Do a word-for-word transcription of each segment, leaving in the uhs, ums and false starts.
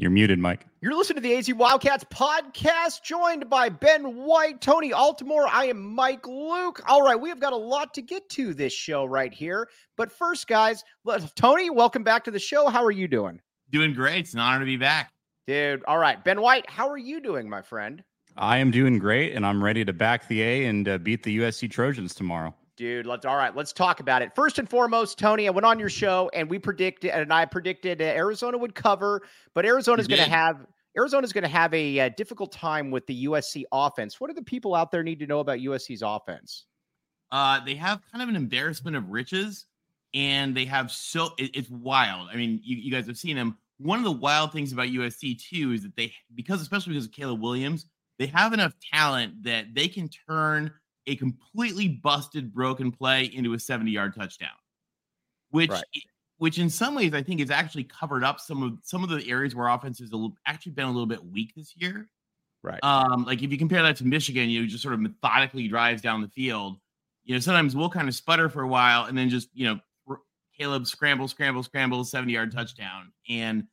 You're muted, Mike. You're listening to the A Z Wildcats podcast, joined by Ben White, Tony Altimore. I am Mike Luke. All right, we have got a lot to get to this show right here. But first, guys, let, Tony, welcome back to the show. How are you doing? Doing great. It's an honor to be back. Dude, all right. Ben White, how are you doing, my friend? I am doing great, and I'm ready to back the A and uh, beat the U S C Trojans tomorrow. Dude, let's all right. Let's talk about it. First and foremost, Tony, I went on your show and we predicted, and I predicted uh, Arizona would cover, but Arizona's going to have Arizona's going to have a uh, difficult time with the U S C offense. What do the people out there need to know about U S C's offense? Uh, they have kind of an embarrassment of riches, and they have so it, it's wild. I mean, you, you guys have seen them. One of the wild things about U S C too is that they, because especially because of Caleb Williams, they have enough talent that they can turn a completely busted, broken play into a seventy-yard touchdown, which, right. which in some ways I think has actually covered up some of some of the areas where offense has actually been a little bit weak this year. Right. Um, like if you compare that to Michigan, you know, just sort of methodically drives down the field. You know, sometimes we'll kind of sputter for a while and then just, you know, Caleb scramble, scramble, scramble, seventy-yard touchdown, and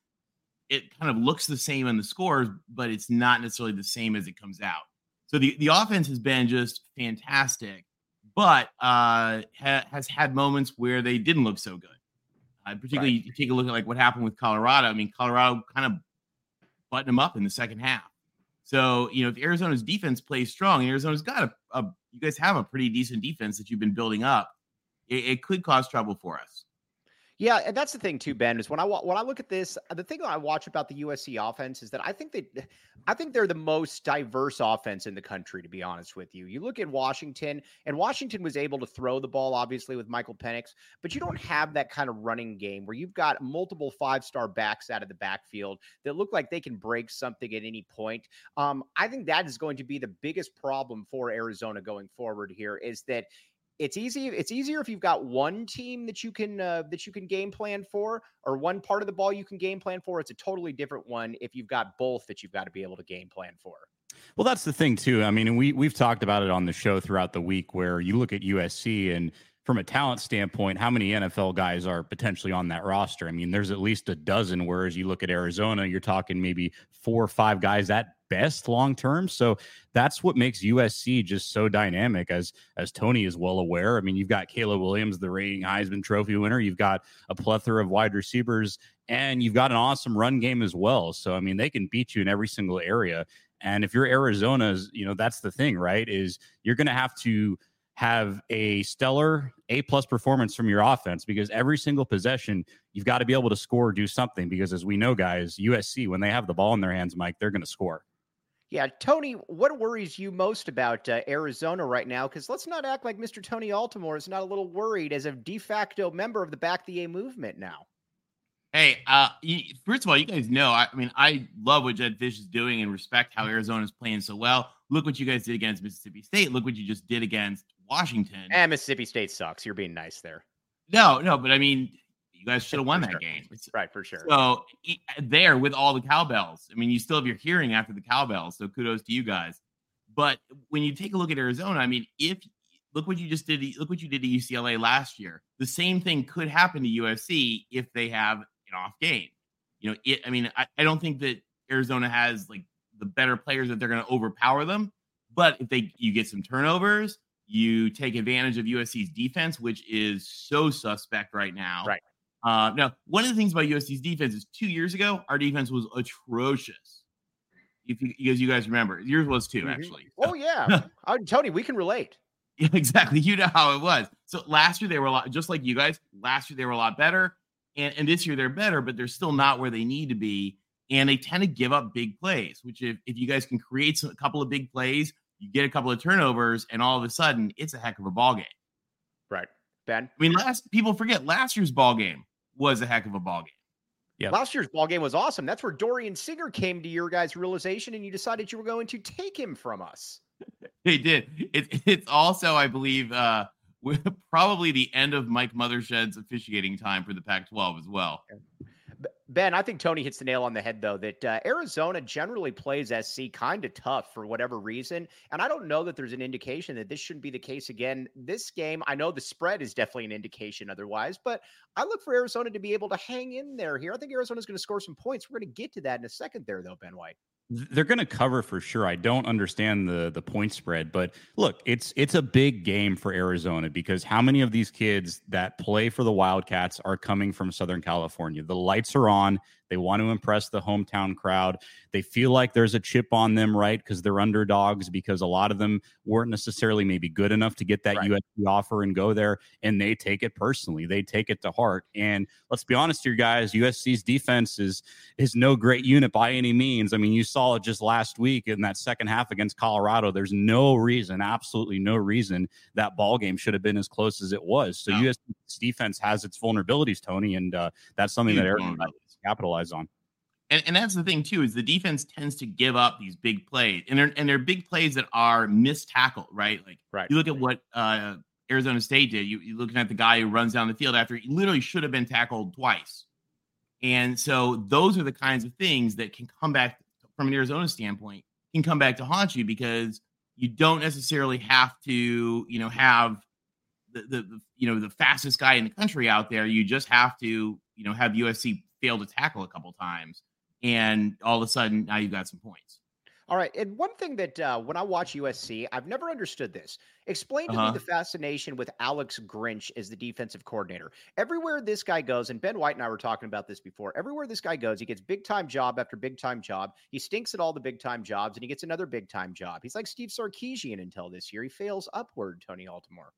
it kind of looks the same on the scores, but it's not necessarily the same as it comes out. So the, the offense has been just fantastic, but uh, ha- has had moments where they didn't look so good. Uh, particularly, right. You take a look at like what happened with Colorado. I mean, Colorado kind of buttoned them up in the second half. So, you know, if Arizona's defense plays strong, Arizona's got a, a you guys have a pretty decent defense that you've been building up. It, it could cause trouble for us. Yeah, and that's the thing too, Ben, is when I when I look at this, the thing that I watch about the U S C offense is that I think they, I think they're the most diverse offense in the country, to be honest with you. You look at Washington, and Washington was able to throw the ball, obviously, with Michael Penix, but you don't have that kind of running game where you've got multiple five-star backs out of the backfield that look like they can break something at any point. Um, I think that is going to be the biggest problem for Arizona going forward here, is that It's easy. It's easier if you've got one team that you can uh, that you can game plan for, or one part of the ball you can game plan for. It's a totally different one if you've got both that you've got to be able to game plan for. Well, that's the thing too. I mean, we we've talked about it on the show throughout the week, where you look at U S C and from a talent standpoint, how many N F L guys are potentially on that roster? I mean, there's at least a dozen. Whereas you look at Arizona, you're talking maybe four or five guys at best long term. So that's what makes U S C just so dynamic, as as Tony is well aware. I mean, you've got Caleb Williams, the reigning Heisman Trophy winner. You've got a plethora of wide receivers, and you've got an awesome run game as well. So I mean, they can beat you in every single area. And if you're Arizona's, you know, that's the thing, right? Is you're going to have to have a stellar A plus performance from your offense, because every single possession you've got to be able to score or do something, because as we know, guys, U S C, when they have the ball in their hands, Mike, they're going to score. Yeah, Tony, what worries you most about uh, Arizona right now? Because let's not act like Mister Tony Altimore is not a little worried as a de facto member of the Back the A movement now. Hey, uh, you, first of all, you guys know, I, I mean, I love what Jedd Fisch is doing and respect how Arizona is playing so well. Look what you guys did against Mississippi State. Look what you just did against Washington. And Mississippi State sucks. You're being nice there. No, no, but I mean, you guys should have won that sure. game. It's, right, for sure. So there with all the cowbells, I mean, you still have your hearing after the cowbells. So kudos to you guys. But when you take a look at Arizona, I mean, if look what you just did, look what you did to U C L A last year. The same thing could happen to U S C if they have an off game. You know, it, I mean, I, I don't think that Arizona has like the better players that they're going to overpower them. But if they you get some turnovers, you take advantage of U S C's defense, which is so suspect right now. Right. Uh, now, one of the things about U S C's defense is two years ago, our defense was atrocious. If you, because you guys remember, yours was too, actually. Mm-hmm. Oh, yeah. uh, Tony, we can relate. Yeah, exactly. You know how it was. So last year, they were a lot, just like you guys, last year, they were a lot better. And, and this year, they're better, but they're still not where they need to be. And they tend to give up big plays, which if, if you guys can create some, a couple of big plays, you get a couple of turnovers, and all of a sudden, it's a heck of a ball game. Right. Ben? I mean, last people forget last year's ball game was a heck of a ball game. Yeah. Last year's ball game was awesome. That's where Dorian Singer came to your guys' realization, and you decided you were going to take him from us. They did. It, it's also, I believe, uh, probably the end of Mike Mothershed's officiating time for the Pac twelve as well. Ben, I think Tony hits the nail on the head, though, that uh, Arizona generally plays S C kind of tough for whatever reason. And I don't know that there's an indication that this shouldn't be the case again. This game, I know the spread is definitely an indication otherwise, but I look for Arizona to be able to hang in there here. I think Arizona's going to score some points. We're going to get to that in a second there, though, Ben White. They're going to cover for sure. I don't understand the the point spread, but look, it's it's a big game for Arizona because how many of these kids that play for the Wildcats are coming from Southern California? The lights are on. They want to impress the hometown crowd. They feel like there's a chip on them, right? Because they're underdogs, because a lot of them weren't necessarily maybe good enough to get that right. U S C offer and go there, and they take it personally. They take it to heart. And let's be honest here, guys, U S C's defense is, is no great unit by any means. I mean, you saw it just last week in that second half against Colorado. There's no reason, absolutely no reason that ball game should have been as close as it was. So no. U S C's defense has its vulnerabilities, Tony, and uh, that's something Huge that Arizona capitalize on. And, and that's the thing too, is the defense tends to give up these big plays, and they're, and they're big plays that are missed tackle, right? Like right. you look at what uh, Arizona State did. You, you're looking at the guy who runs down the field after he literally should have been tackled twice. And so those are the kinds of things that can come back from an Arizona standpoint, can come back to haunt you, because you don't necessarily have to, you know, have the, the, the you know, the fastest guy in the country out there. You just have to, you know, have U S C fail to tackle a couple times, and all of a sudden now you've got some points. All right. And one thing that uh, when I watch U S C, I've never understood this. Explain to uh-huh. me the fascination with Alex Grinch as the defensive coordinator. Everywhere this guy goes, and Ben White and I were talking about this before, everywhere this guy goes, he gets big-time job after big-time job. He stinks at all the big-time jobs, and he gets another big-time job. He's like Steve Sarkisian until this year. He fails upward, Tony Altimore.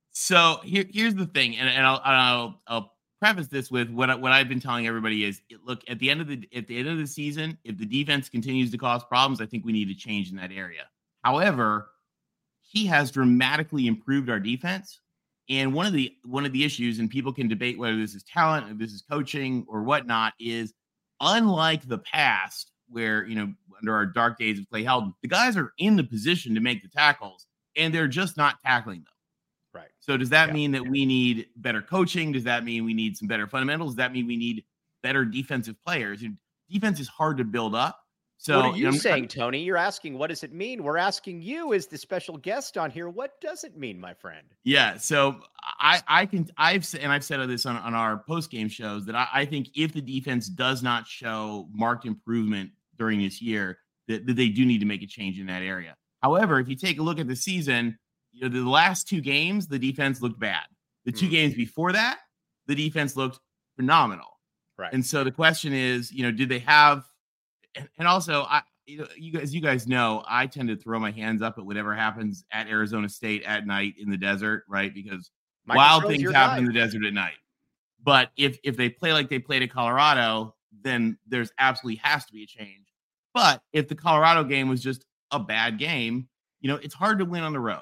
So here, here's the thing, and, and I'll, I'll, I'll preface this with what what I've been telling everybody is, look, at the end of the at the end of the season, if the defense continues to cause problems, I think we need to change in that area. However, he has dramatically improved our defense, and one of the one of the issues, and people can debate whether this is talent, or this is coaching, or whatnot, is unlike the past where, you know, under our dark days of Clay Helton, the guys are in the position to make the tackles, and they're just not tackling them. Right. So does that yeah. mean that we need better coaching? Does that mean we need some better fundamentals? Does that mean we need better defensive players? And defense is hard to build up. So what are you know, saying, I'm, Tony? You're asking, what does it mean? We're asking you as the special guest on here. What does it mean, my friend? Yeah. So I, I can, I've and I've said this on, on our post game shows that I, I think if the defense does not show marked improvement during this year, that, that they do need to make a change in that area. However, if you take a look at the season, you know, the last two games, the defense looked bad. The two mm. games before that, the defense looked phenomenal. Right. And so the question is, you know, did they have, and, and also, I, you know, you guys, you guys know, I tend to throw my hands up at whatever happens at Arizona State at night in the desert, right? Because Michael wild Crow's things happen guy. in the desert at night. But if if they play like they played at Colorado, then there's absolutely has to be a change. But if the Colorado game was just a bad game, you know, it's hard to win on the road.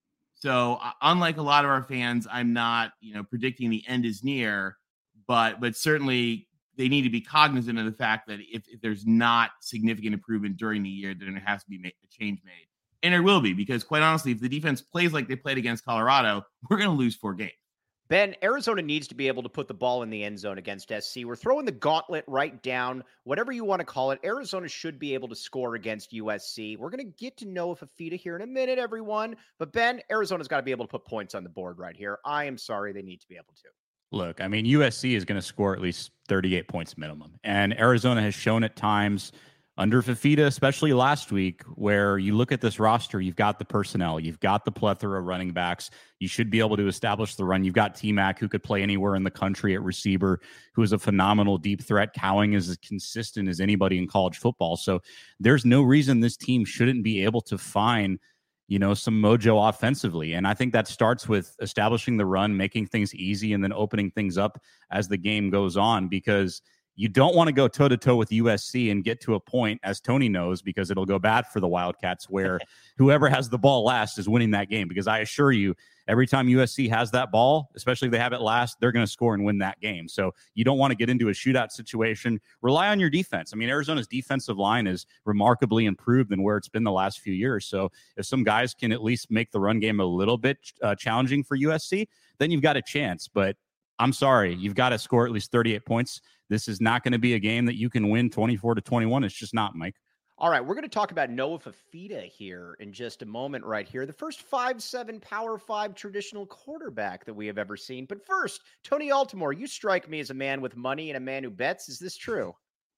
So uh, unlike a lot of our fans, I'm not, you know, predicting the end is near, but but certainly they need to be cognizant of the fact that if, if there's not significant improvement during the year, then there has to be made, a change made. And there will be, because quite honestly, if the defense plays like they played against Colorado, we're going to lose four games. Ben, Arizona needs to be able to put the ball in the end zone against S C. We're throwing the gauntlet right down, whatever you want to call it. Arizona should be able to score against U S C. We're going to get to know Fifita here in a minute, everyone. But Ben, Arizona's got to be able to put points on the board right here. I am sorry, they need to be able to. Look, I mean, U S C is going to score at least thirty-eight points minimum. And Arizona has shown at times under Fifita, especially last week, where you look at this roster, you've got the personnel, you've got the plethora of running backs. You should be able to establish the run. You've got T-Mac, who could play anywhere in the country at receiver, who is a phenomenal deep threat. Cowing is as consistent as anybody in college football. So there's no reason this team shouldn't be able to find, you know, some mojo offensively. And I think that starts with establishing the run, making things easy, and then opening things up as the game goes on, because you don't want to go toe-to-toe with U S C and get to a point, as Tony knows, because it'll go bad for the Wildcats, where whoever has the ball last is winning that game. Because I assure you, every time U S C has that ball, especially if they have it last, they're going to score and win that game. So you don't want to get into a shootout situation. Rely on your defense. I mean, Arizona's defensive line is remarkably improved than where it's been the last few years. So if some guys can at least make the run game a little bit uh, challenging for U S C, then you've got a chance. But I'm sorry. You've got to score at least thirty-eight points. This is not going to be a game that you can win twenty-four to twenty-one. It's just not, Mike. All right, we're going to talk about Noah Fifita here in just a moment right here. The first five seven Power five traditional quarterback that we have ever seen. But first, Tony Altimore, you strike me as a man with money and a man who bets. Is this true?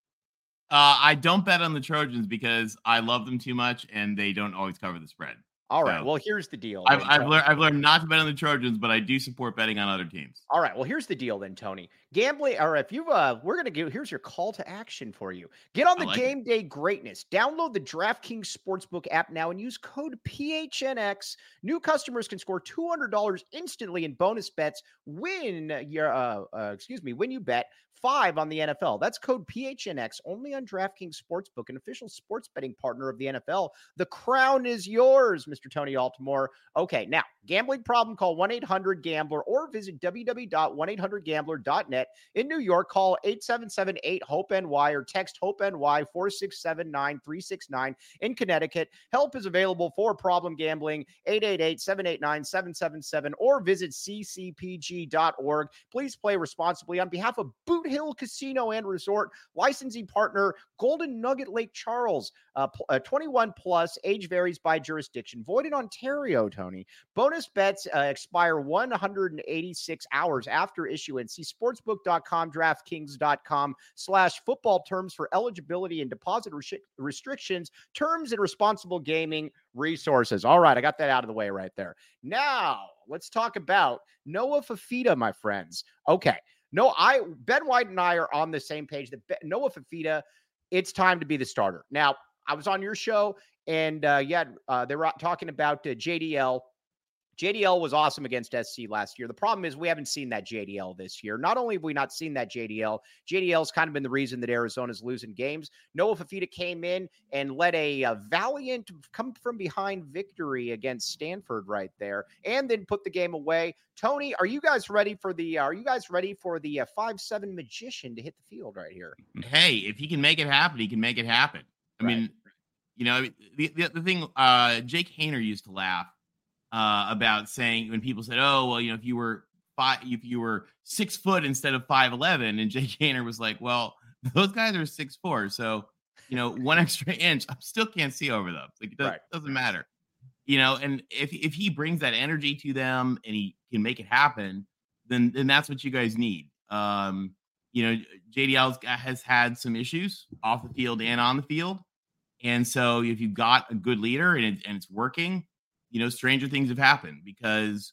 Uh, I don't bet on the Trojans because I love them too much and they don't always cover the spread. All right. So, well, here's the deal. I've, then, I've, learned, I've learned not to bet on the Trojans, but I do support betting on other teams. All right. Well, here's the deal then, Tony. Gambling, or if you, uh, we're going to give, here's your call to action for you. Get on the like game it. day greatness. Download the DraftKings Sportsbook app now and use code P H N X. New customers can score two hundred dollars instantly in bonus bets when your, uh, uh, excuse me, when you bet five on the N F L. That's code P H N X only on DraftKings Sportsbook, an official sports betting partner of the N F L. The crown is yours, Mister Tony Altimore. Okay, now, gambling problem, call one eight hundred gambler or visit w w w dot one eight hundred gambler dot net. In New York, call eight seven seven eight hope N Y or text HOPE-NY four six seven nine three six nine. In Connecticut, help is available for problem gambling, eight eight eight seven eight nine seven seven seven, or visit c c p g dot org. Please play responsibly. On behalf of Boot Hill Casino and Resort, licensing partner Golden Nugget Lake Charles, uh, uh, twenty-one plus, age varies by jurisdiction, void in Ontario, Tony. Bonus bets uh, expire one hundred eighty-six hours after issuance. See sportsbook dot com, DraftKings dot com slash football terms for eligibility and deposit res- restrictions, terms and responsible gaming resources. All right, I got that out of the way right there. Now, let's talk about Noah Fifita, my friends. Okay. No, I Ben White and I are on the same page that Be- Noah Fifita, it's time to be the starter. Now, I was on your show, and uh, yeah, uh, they were talking about uh, J D L. J D L was awesome against S C last year. The problem is we haven't seen that J D L this year. Not only have we not seen that J D L, J D L's kind of been the reason that Arizona's losing games. Noah Fifita came in and led a, a valiant come from behind victory against Stanford right there, and then put the game away. Tony, are you guys ready for the? Are you guys ready for the uh, five seven magician to hit the field right here? Hey, if he can make it happen, he can make it happen. I Right. mean, you know, the the, the thing. Uh, Jake Haener used to laugh Uh, about saying when people said, "Oh, well, you know, if you were five, if you were six foot instead of five eleven," and Jake Haener was like, "Well, those guys are six four, so you know, one extra inch, I still can't see over them. Like it does, Right. doesn't matter, you know." And if if he brings that energy to them and he can make it happen, then then that's what you guys need. Um, you know, J D L has had some issues off the field and on the field, and so if you've got a good leader and, it, and it's working, you know, stranger things have happened, because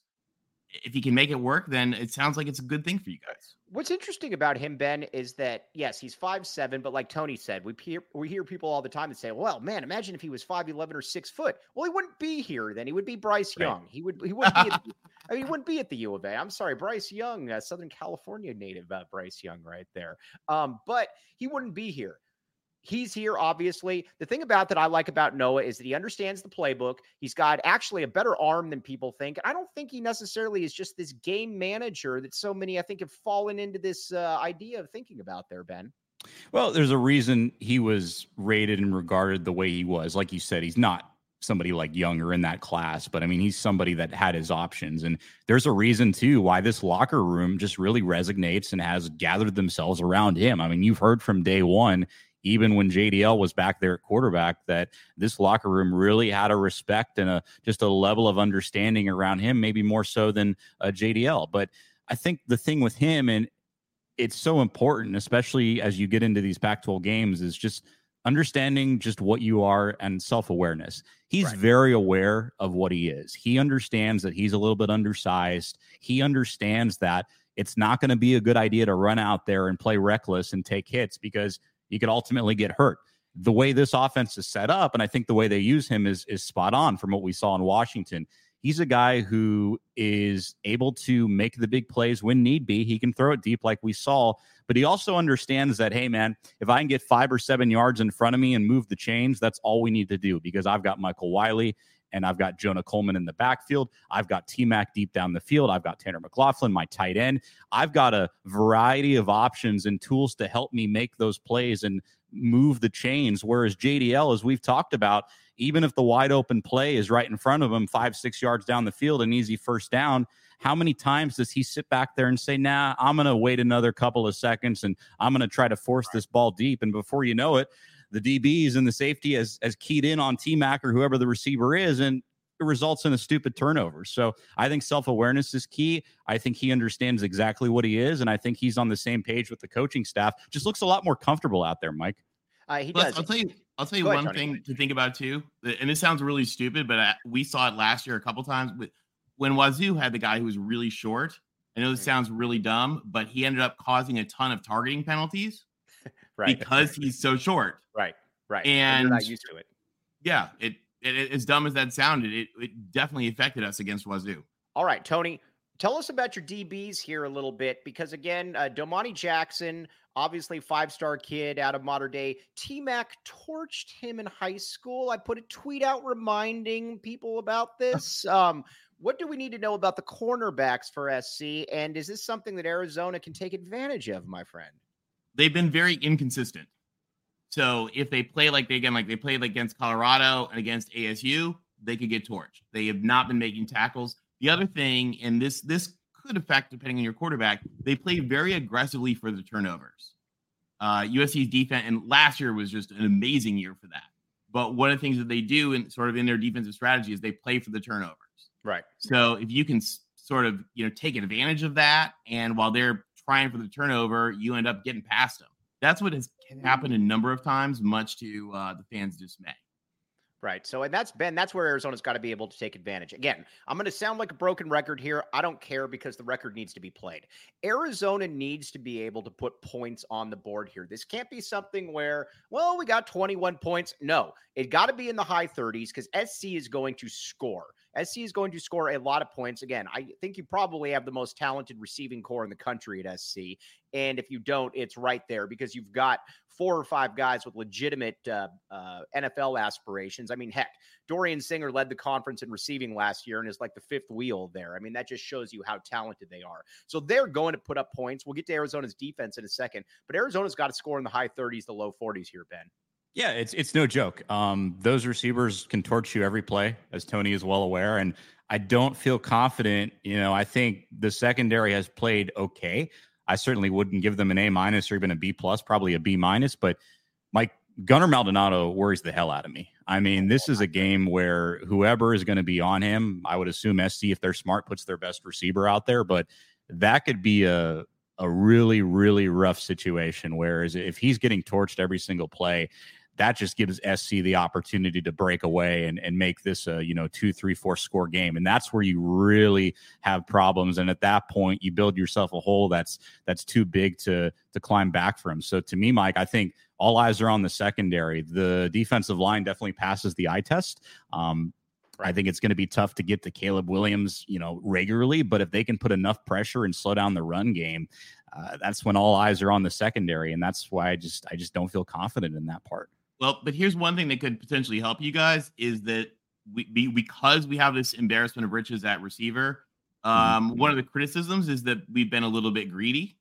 if he can make it work, then it sounds like it's a good thing for you guys. What's interesting about him, Ben, is that, yes, he's five seven, but like Tony said, we hear, we hear people all the time that say, well, man, imagine if he was five eleven or six foot. Well, he wouldn't be here then. He would be Bryce Right. Young. He would he wouldn't be at the, I mean, he wouldn't be at the U of A. I'm sorry, Bryce Young, uh, Southern California native uh, Bryce Young right there. Um, but he wouldn't be here. He's here, obviously. The thing about that I like about Noah is that he understands the playbook. He's got actually a better arm than people think. I don't think he necessarily is just this game manager that so many, I think, have fallen into this uh, idea of thinking about there, Ben. Well, there's a reason he was rated and regarded the way he was. Like you said, he's not somebody like Young or in that class, but I mean, he's somebody that had his options. And there's a reason, too, why this locker room just really resonates and has gathered themselves around him. I mean, you've heard from day one, even when J D L was back there at quarterback, that this locker room really had a respect and a just a level of understanding around him, maybe more so than uh, J D L. But I think the thing with him, and it's so important, especially as you get into these Pac twelve games, is just understanding just what you are and self-awareness. He's Right. very aware of what he is. He understands that he's a little bit undersized. He understands that it's not going to be a good idea to run out there and play reckless and take hits, because you could ultimately get hurt. The way this offense is set up, and I think the way they use him is, is spot on from what we saw in Washington. He's a guy who is able to make the big plays when need be. He can throw it deep like we saw, but he also understands that, hey, man, if I can get five or seven yards in front of me and move the chains, that's all we need to do, because I've got Michael Wiley and I've got Jonah Coleman in the backfield. I've got T-Mac deep down the field. I've got Tanner McLaughlin, my tight end. I've got a variety of options and tools to help me make those plays and move the chains. Whereas J D L, as we've talked about, even if the wide open play is right in front of him, five, six yards down the field, an easy first down, how many times does he sit back there and say, nah, I'm going to wait another couple of seconds and I'm going to try to force this ball deep. And before you know it, the D Bs and the safety has, has keyed in on T-Mac or whoever the receiver is, and it results in a stupid turnover. So I think self-awareness is key. I think he understands exactly what he is, and I think he's on the same page with the coaching staff. Just looks a lot more comfortable out there, Mike. Uh, he Plus, does. I'll tell you, I'll tell you Go one ahead, Tony. thing to think about too, and this sounds really stupid, but I, we saw it last year a couple times with when Wazoo had the guy who was really short. I know this sounds really dumb, but he ended up causing a ton of targeting penalties right. because he's so short. Right, right. And, and you're not used to it. Yeah, it, it, it as dumb as that sounded, it, it definitely affected us against Wazoo. All right, Tony, tell us about your D Bs here a little bit, because again, uh, Domani Jackson, obviously five-star kid out of Mater Dei. T-Mac torched him in high school. I put a tweet out reminding people about this. Um, what do we need to know about the cornerbacks for S C? And is this something that Arizona can take advantage of, my friend? They've been very inconsistent. So if they play like they again, like they played against Colorado and against A S U, they could get torched. They have not been making tackles. The other thing, and this this could affect depending on your quarterback, they play very aggressively for the turnovers. Uh, U S C's defense, and last year was just an amazing year for that. But one of the things that they do in sort of in their defensive strategy is they play for the turnovers. Right. So if you can s- sort of, you know, take advantage of that, and while they're trying for the turnover, you end up getting past them. That's what has happened a number of times, much to uh, the fans' dismay. Right. So, and that's Ben, that's where Arizona's got to be able to take advantage. Again, I'm going to sound like a broken record here. I don't care, because the record needs to be played. Arizona needs to be able to put points on the board here. This can't be something where, well, we got twenty-one points. No, it got to be in the high thirties, because S C is going to score. S C is going to score a lot of points. Again, I think you probably have the most talented receiving core in the country at S C. And if you don't, it's right there, because you've got four or five guys with legitimate uh, uh, N F L aspirations. I mean, heck, Dorian Singer led the conference in receiving last year and is like the fifth wheel there. I mean, that just shows you how talented they are. So they're going to put up points. We'll get to Arizona's defense in a second, but Arizona's got to score in the high thirties, the low forties here, Ben. Yeah, it's it's no joke. Um, those receivers can torch you every play, as Tony is well aware. And I don't feel confident. You know, I think the secondary has played okay. I certainly wouldn't give them an A minus or even a B plus, probably a B minus. But Mike Gunnar Maldonado worries the hell out of me. I mean, this is a game where whoever is going to be on him, I would assume S C, if they're smart, puts their best receiver out there. But that could be a a really, really rough situation. Whereas if he's getting torched every single play, that just gives S C the opportunity to break away and, and make this a, you know, two, three, four score game. And that's where you really have problems. And at that point, you build yourself a hole that's that's too big to to climb back from. So to me, Mike, I think all eyes are on the secondary. The defensive line definitely passes the eye test. Um, I think it's going to be tough to get to Caleb Williams, you know, regularly. But if they can put enough pressure and slow down the run game, uh, that's when all eyes are on the secondary. And that's why I just I just don't feel confident in that part. Well, but here's one thing that could potentially help you guys is that we, we because we have this embarrassment of riches at receiver. Um, mm-hmm. One of the criticisms is that we've been a little bit greedy.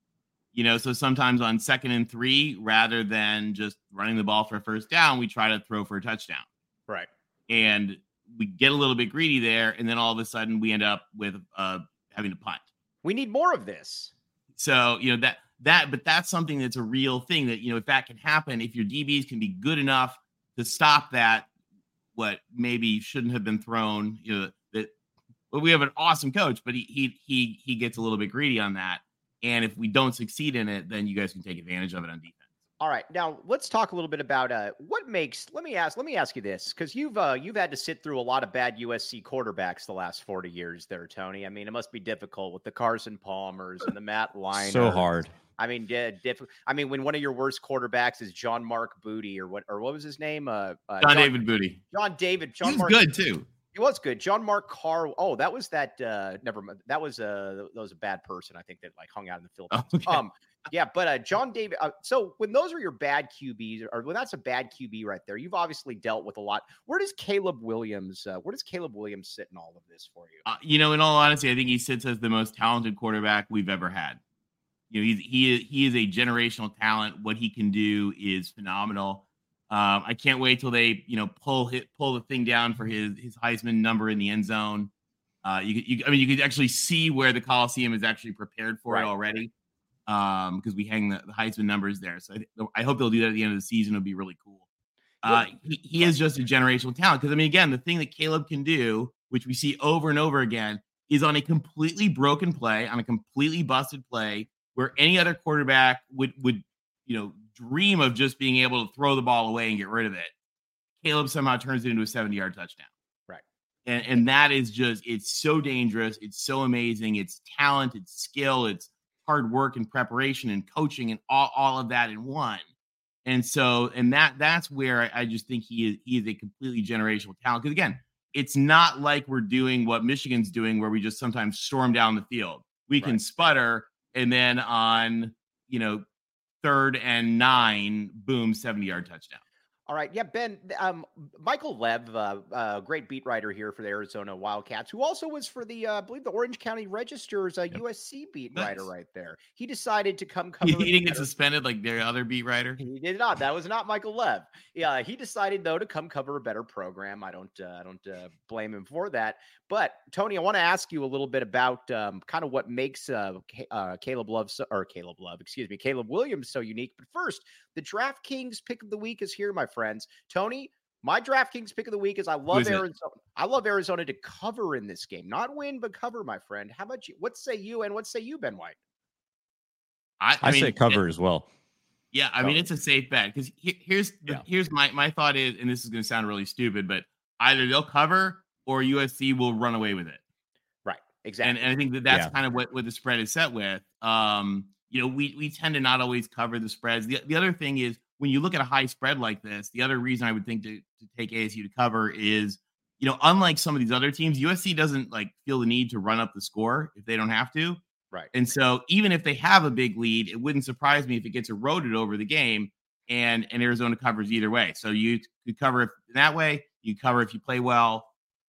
You know, so sometimes on second and three, rather than just running the ball for a first down, we try to throw for a touchdown. Right. And we get a little bit greedy there, and then all of a sudden we end up with uh, having to punt. We need more of this. So, you know, that that, but that's something that's a real thing that, you know, if that can happen, if your D Bs can be good enough to stop that, what maybe shouldn't have been thrown, you know, that well, we have an awesome coach, but he he he he gets a little bit greedy on that. And if we don't succeed in it, then you guys can take advantage of it on defense. All right, now let's talk a little bit about uh, what makes. Let me ask. Let me ask you this, because you've uh, you've had to sit through a lot of bad U S C quarterbacks the last forty years, there, Tony. I mean, it must be difficult with the Carson Palmers and the Matt Leinart. So hard. I mean, yeah, diff- I mean, when one of your worst quarterbacks is John Mark Booty, or what, or what was his name? Uh, uh, John, John David Booty. John David. John he was Mark, good too. He was good. John Mark Carr. Oh, that was that. Uh, never mind. That was a that was a bad person, I think, that like hung out in the Philippines. Oh, okay. Um, yeah, but uh, John David. Uh, so when those are your bad Q Bs, or when that's a bad Q B right there, you've obviously dealt with a lot. Where does Caleb Williams? Uh, where does Caleb Williams sit in all of this for you? Uh, you know, in all honesty, I think he sits as the most talented quarterback we've ever had. You know, he's he is he is a generational talent. What he can do is phenomenal. Um, I can't wait till they, you know, pull hit, pull the thing down for his his Heisman number in the end zone. Uh, you, you, I mean, you could actually see where the Coliseum is actually prepared for Right. it already, um, because we hang the, the Heisman numbers there. So I, I hope they'll do that at the end of the season. It'll be really cool. Uh, he, he is just a generational talent. Because I mean, again, the thing that Caleb can do, which we see over and over again, is on a completely broken play, on a completely busted play, where any other quarterback would would you know dream of just being able to throw the ball away and get rid of it. Caleb somehow turns it into a seventy-yard touchdown. Right. And, and that is just, it's so dangerous. It's so amazing. It's talent, it's skill, it's hard work and preparation and coaching and all, all of that in one. And so, and that that's where I, I just think he is, he is a completely generational talent. Because again, it's not like we're doing what Michigan's doing, where we just sometimes storm down the field. We can Right. sputter, and then on, you know, third and nine, boom, seventy-yard touchdown. All right. Yeah, Ben, um, Michael Lev, uh, uh, great beat writer here for the Arizona Wildcats, who also was for the, uh, I believe, the Orange County Register's uh, Yep. U S C beat Nice. wrget right there. He decided to come cover. He, in he didn't get better- suspended like their other beat writer. He did not. That was not Michael Lev. Yeah, he decided though to come cover a better program. I don't, uh, I don't uh, blame him for that. But Tony, I want to ask you a little bit about um, kind of what makes uh, Ca- uh, Caleb Love so, or Caleb Love, excuse me, Caleb Williams so unique. But first, the DraftKings pick of the week is here, my friends. Tony, my DraftKings pick of the week is I love is it? Arizona. I love Arizona to cover in this game, not win but cover, my friend. How about you? What say you? And what say you, Ben White? I, I, I mean, say cover as well. Yeah, I mean, Cover. it's a safe bet because he, here's the, Yeah. here's my my thought is, and this is going to sound really stupid, but either they'll cover or U S C will run away with it. Right. Exactly. And, and I think that that's Yeah. kind of what, what the spread is set with. Um, you know, we we tend to not always cover the spreads. The, the other thing is when you look at a high spread like this, the other reason I would think to, to take A S U to cover is, you know, unlike some of these other teams, U S C doesn't like feel the need to run up the score if they don't have to. right. And so even if they have a big lead, it wouldn't surprise me if it gets eroded over the game and, and Arizona covers either way. So you could cover it that way. You cover if you play well,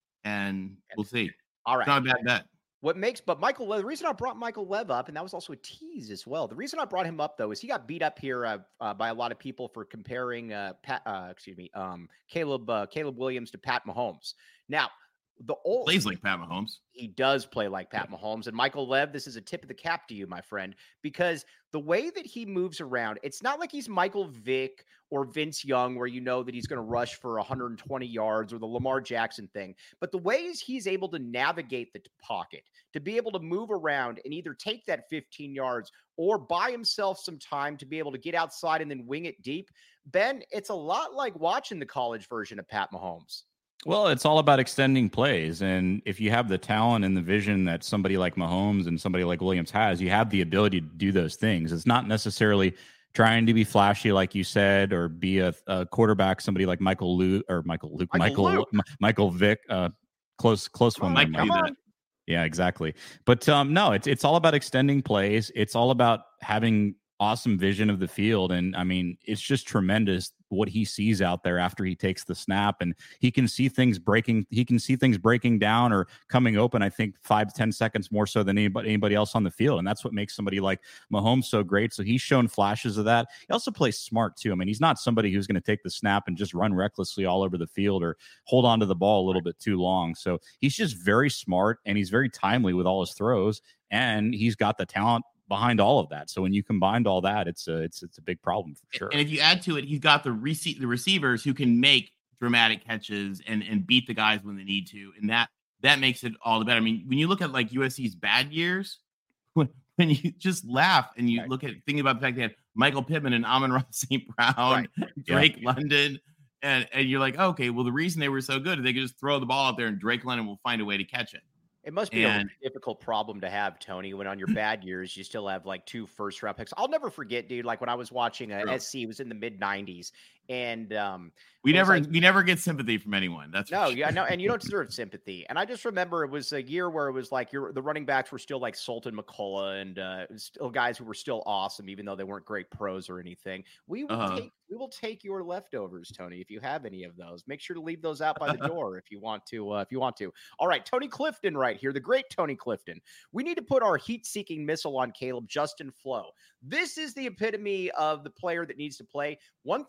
and we'll see. All right. It's not a bad bet. What makes, but Michael, Lev, the reason I brought Michael Lev up, and that was also a tease as well. The reason I brought him up though is he got beat up here uh, uh, by a lot of people for comparing uh, Pat, uh, excuse me, um, Caleb uh, Caleb Williams to Pat Mahomes. Now, the old Plays like Pat Mahomes. he does play like Pat Mahomes. And Michael Lev, this is a tip of the cap to you, my friend, because the way that he moves around, it's not like he's Michael Vick or Vince Young, where you know that he's going to rush for one hundred twenty yards, or the Lamar Jackson thing. But the ways he's able to navigate the pocket, to be able to move around and either take that fifteen yards or buy himself some time to be able to get outside and then wing it deep. Ben, it's a lot like watching the college version of Pat Mahomes. Well, it's all about extending plays. And if you have the talent and the vision that somebody like Mahomes and somebody like Williams has, you have the ability to do those things. It's not necessarily trying to be flashy, like you said, or be a, a quarterback, somebody like Michael Luke or Michael Luke, Michael Michael, Luke. M- Michael Vick, uh, close, close Come one. on, there, Mike Mike. do come that. on. Yeah, exactly. But um, no, it's it's all about extending plays. It's all about having awesome vision of the field. And I mean, it's just tremendous what he sees out there after he takes the snap, and he can see things breaking. He can see things breaking down or coming open, I think five, ten seconds more so than anybody, anybody else on the field. And that's what makes somebody like Mahomes so great. So he's shown flashes of that. He also plays smart too. I mean, he's not somebody who's going to take the snap and just run recklessly all over the field or hold on to the ball a little bit too long. So he's just very smart, and he's very timely with all his throws, and he's got the talent behind all of that. So when you combined all that, it's a it's it's a big problem for sure. And if you add to it, he's got the rece- the receivers who can make dramatic catches and and beat the guys when they need to, and that that makes it all the better. I mean, when you look at like U S C's bad years, when, when you just laugh and you Right. look at thinking about the fact they had Michael Pittman and Amon-Ra Saint Brown, Right. Drake London, and and you're like, okay, well the reason they were so good is they could just throw the ball out there and Drake London will find a way to catch it. It must be And- a difficult problem to have, Tony, when on your bad years, you still have like two first round picks. I'll never forget, dude, like when I was watching a True. S C, it was in the mid nineties. And um, We It was never like- we never get sympathy from anyone. That's for no, sure. yeah, no, and you don't deserve sympathy. And I just remember it was a year where it was like your the running backs were still like Sultan McCullough and uh, still guys who were still awesome, even though they weren't great pros or anything. We will Uh-huh. take we will take your leftovers, Tony, if you have any of those. Make sure to leave those out by the door if you want to. Uh, if you want to. All right, Tony Clifton, right here, the great Tony Clifton. We need to put our heat-seeking missile on Caleb, Justin Flo. This is the epitome of the player that needs to play. One thing that is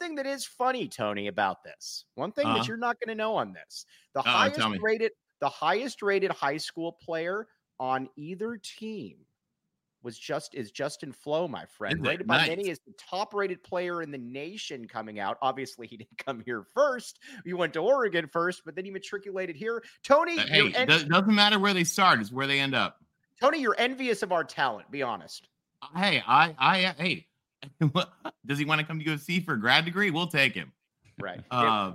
funny, Tony, about this. One thing uh-huh. that you're not going to know on this. The Uh-oh, highest rated the highest rated high school player on either team was just is Justin Flo, my friend. Is Rated it? by Nice. many as the top rated player in the nation coming out. Obviously, he didn't come here first. He went to Oregon first, but then he matriculated here. Tony, Uh, hey, en- it doesn't matter where they start; it's where they end up. Tony, you're envious of our talent. Be honest. Hey, I, I, hey, does he want to come to U S C for a grad degree? We'll take him. Right. Uh,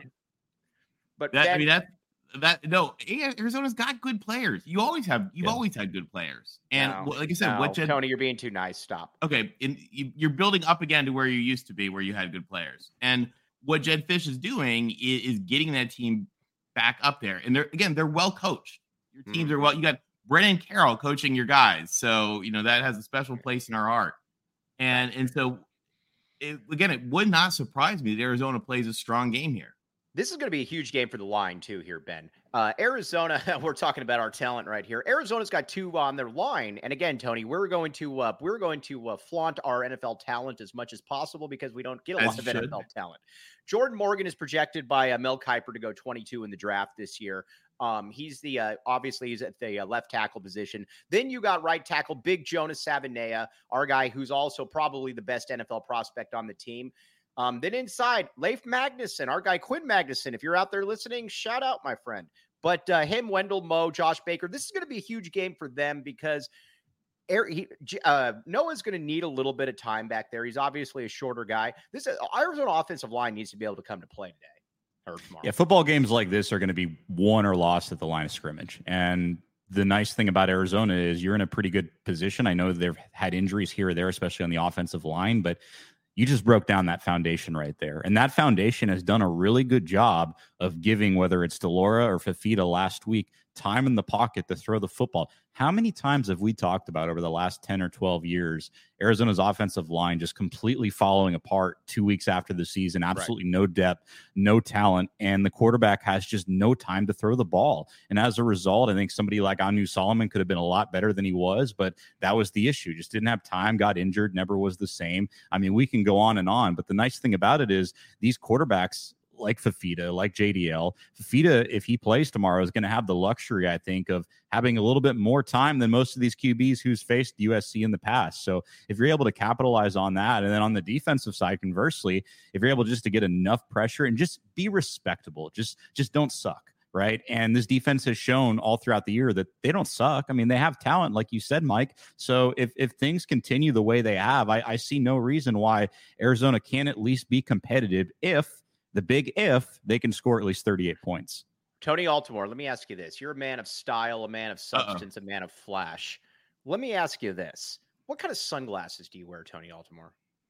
but that, Ben, I mean, that, that, no, Arizona's got good players. You always have, you've yeah. always had good players. And no, well, like I said, no, what Jed, Tony, you're being too nice. Stop. Okay. And you, you're building up again to where you used to be, where you had good players. And what Jed Fish is doing is, is getting that team back up there. And they're, again, they're well coached. Your teams mm. are well, you got Brennan Carroll coaching your guys. So, you know, that has a special place in our heart. And, and so, it, again, it would not surprise me that Arizona plays a strong game here. This is going to be a huge game for the line, too, here, Ben. Uh, Arizona, we're talking about our talent right here. Arizona's got two on their line. And again, Tony, we're going to uh, we're going to uh, flaunt our N F L talent as much as possible because we don't get a as lot of should. N F L talent. Jordan Morgan is projected by uh, Mel Kiper to go twenty-two in the draft this year. Um, he's the uh, obviously he's at the uh, left tackle position. Then you got right tackle Big Jonas Savanea, our guy who's also probably the best N F L prospect on the team. Um, then inside, Leif Magnuson, our guy Quinn Magnuson. If you're out there listening, shout out, my friend. But uh, him, Wendell Moe, Josh Baker, this is going to be a huge game for them because Air, he, uh, Noah's going to need a little bit of time back there. He's obviously a shorter guy. This uh, Arizona offensive line needs to be able to come to play today or tomorrow. Yeah, football games like this are going to be won or lost at the line of scrimmage. And the nice thing about Arizona is you're in a pretty good position. I know they've had injuries here or there, especially on the offensive line, but you just broke down that foundation right there. And that foundation has done a really good job of giving, whether it's Delora or Fifita last week, time in the pocket to throw the football. How many times have we talked about over the last ten or twelve years, Arizona's offensive line just completely falling apart two weeks after the season, absolutely right. No depth, no talent, and the quarterback has just no time to throw the ball. And as a result, I think somebody like Anu Solomon could have been a lot better than he was, but that was the issue. Just didn't have time, got injured, never was the same. I mean, we can go on and on, but the nice thing about it is these quarterbacks like Fifita, like J D L. Fifita, if he plays tomorrow, is going to have the luxury, I think, of having a little bit more time than most of these Q Bs who's faced U S C in the past. So if you're able to capitalize on that, and then on the defensive side, conversely, if you're able just to get enough pressure and just be respectable, just just don't suck, right? And this defense has shown all throughout the year that they don't suck. I mean, they have talent, like you said, Mike. So if if things continue the way they have, I, I see no reason why Arizona can't at least be competitive if the big if they can score at least thirty-eight points. Tony Altimore, let me ask you this. You're a man of style, a man of substance, Uh-oh. a man of flash. Let me ask you this. What kind of sunglasses do you wear, Tony Altimore?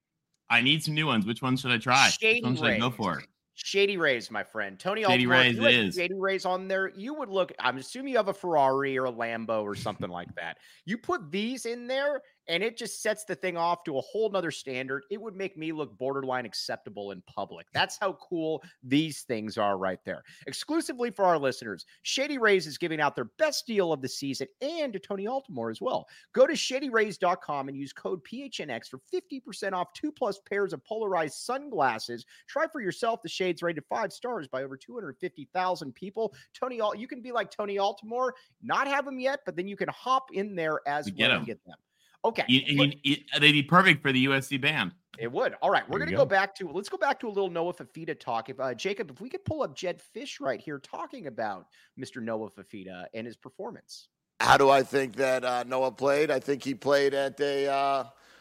I need some new ones. Which ones should I try? Shady Which ones should I go for? Shady Rays, my friend. Tony Shady Altimore, Rays if you is. Shady Rays on there, you would look, I'm assuming you have a Ferrari or a Lambo or something like that. You put these in there, and it just sets the thing off to a whole nother standard. It would make me look borderline acceptable in public. That's how cool these things are right there. Exclusively for our listeners, Shady Rays is giving out their best deal of the season and to Tony Altimore as well. Go to shady rays dot com and use code P H N X for fifty percent off two plus pairs of polarized sunglasses. Try for yourself the shades rated five stars by over two hundred fifty thousand people. Tony, you can be like Tony Altimore, not have them yet, but then you can hop in there as well and get them. Okay. You, you, you, they'd be perfect for the U S C band. It would. All right. We're going to go. go back to, let's go back to a little Noah Fifita talk. If uh, Jacob, if we could pull up Jed Fish right here talking about Mister Noah Fifita and his performance. How do I think that uh, Noah played? I think he played at a, uh,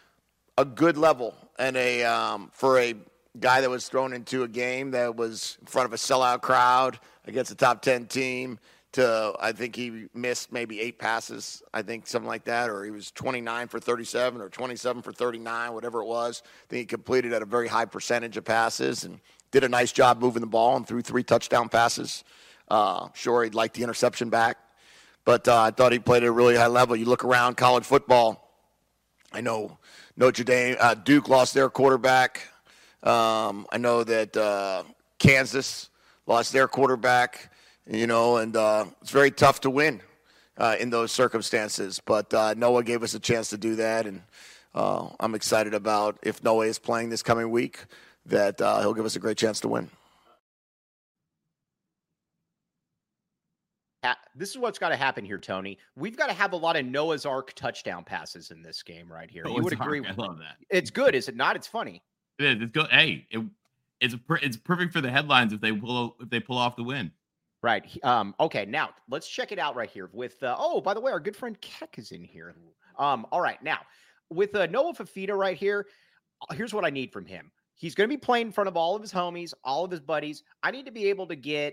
a good level and a, um, for a guy that was thrown into a game that was in front of a sellout crowd against a top ten team. To, I think he missed maybe eight passes, I think something like that, or he was twenty-nine for thirty-seven or twenty-seven for thirty-nine, whatever it was. I think he completed at a very high percentage of passes and did a nice job moving the ball and threw three touchdown passes. Uh, sure, he'd like the interception back, but uh, I thought he played at a really high level. You look around college football, I know Notre Dame, uh, Duke lost their quarterback. Um, I know that uh, Kansas lost their quarterback. You know, and uh, it's very tough to win uh, in those circumstances. But uh, Noah gave us a chance to do that, and uh, I'm excited about if Noah is playing this coming week, that uh, he'll give us a great chance to win. This is what's got to happen here, Tony. We've got to have a lot of Noah's Ark touchdown passes in this game right here. Noah's you would Ark, agree? I love that. It's good, is it not? It's funny. It is. It's good. Hey, it, it's a per, it's perfect for the headlines if they pull if they pull off the win. Right. Um. Okay. Now let's check it out right here. With uh, oh, by the way, our good friend Keck is in here. Um. All right. Now with uh, Noah Fifita right here, here's what I need from him. He's going to be playing in front of all of his homies, all of his buddies. I need to be able to get.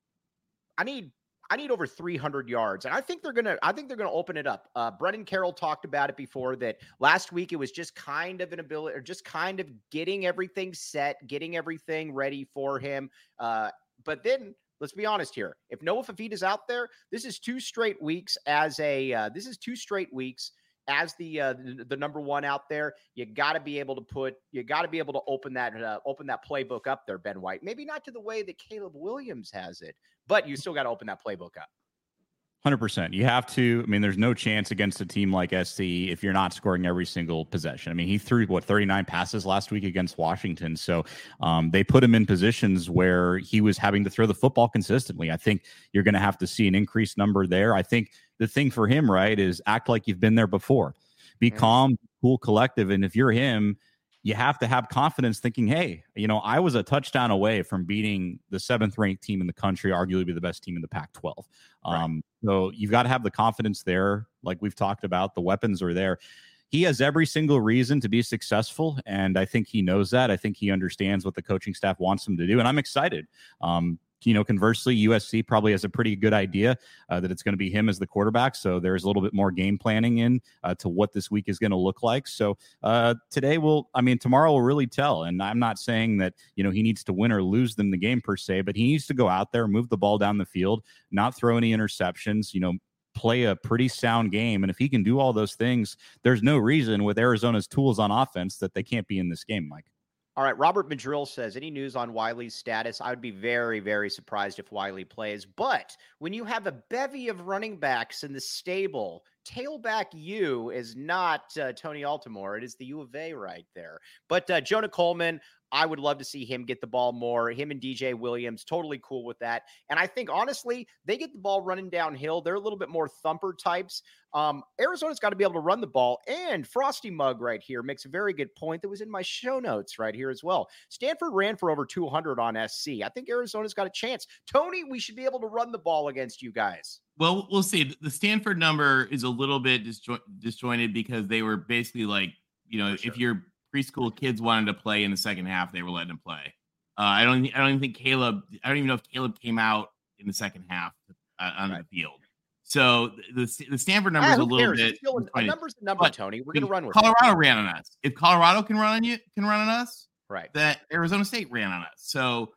I need. I need over three hundred yards. And I think they're going to, I think they're going to open it up. Uh, Brendan Carroll talked about it before that last week. It was just kind of an ability or just kind of getting everything set, getting everything ready for him. Uh, but then let's be honest here. If Noah Fifita's out there, this is two straight weeks as a, uh, this is two straight weeks as the, uh, the, the number one out there. You got to be able to put, you got to be able to open that, uh, open that playbook up there, Ben White. Maybe not to the way that Caleb Williams has it, but you still got to open that playbook up. one hundred percent. You have to. I mean, there's no chance against a team like S C if you're not scoring every single possession. I mean, he threw, what, thirty-nine passes last week against Washington. So um, they put him in positions where he was having to throw the football consistently. I think you're going to have to see an increased number there. I think the thing for him, right, is act like you've been there before. Be mm-hmm. calm, cool, collective. And if you're him, you have to have confidence thinking, hey, you know, I was a touchdown away from beating the seventh ranked team in the country, arguably the best team in the Pac twelve. Right. Um, so you've got to have the confidence there. Like we've talked about, the weapons are there. He has every single reason to be successful. And I think he knows that. I think he understands what the coaching staff wants him to do. And I'm excited. Um, You know, conversely, U S C probably has a pretty good idea uh, that it's going to be him as the quarterback. So there's a little bit more game planning in uh, to what this week is going to look like. So uh, today will, I mean, tomorrow will really tell. And I'm not saying that, you know, he needs to win or lose them the game per se, but he needs to go out there, move the ball down the field, not throw any interceptions, you know, play a pretty sound game. And if he can do all those things, there's no reason with Arizona's tools on offense that they can't be in this game, Mike. All right, Robert Madrill says, any news on Wiley's status? I would be very, very surprised if Wiley plays. But when you have a bevy of running backs in the stable, tailback U is not uh, Tony Altimore. It is the U of A right there. But uh, Jonah Coleman, I would love to see him get the ball more. Him and D J Williams, totally cool with that. And I think, honestly, they get the ball running downhill. They're a little bit more thumper types. Um, Arizona's got to be able to run the ball. And Frosty Mug right here makes a very good point that was in my show notes right here as well. Stanford ran for over two hundred on S C. I think Arizona's got a chance. Tony, we should be able to run the ball against you guys. Well, we'll see. The Stanford number is a little bit disjo- disjointed because they were basically like, you know, sure. if your preschool kids wanted to play in the second half, they were letting them play. Uh, I don't. I don't even think Caleb. I don't even know if Caleb came out in the second half uh, on right. the field. So the the Stanford number is ah, a little cares? bit. Still a number's a number, but Tony. We're gonna run with Colorado it. ran on us. If Colorado can run on you, can run on us. Right. That Arizona State ran on us. So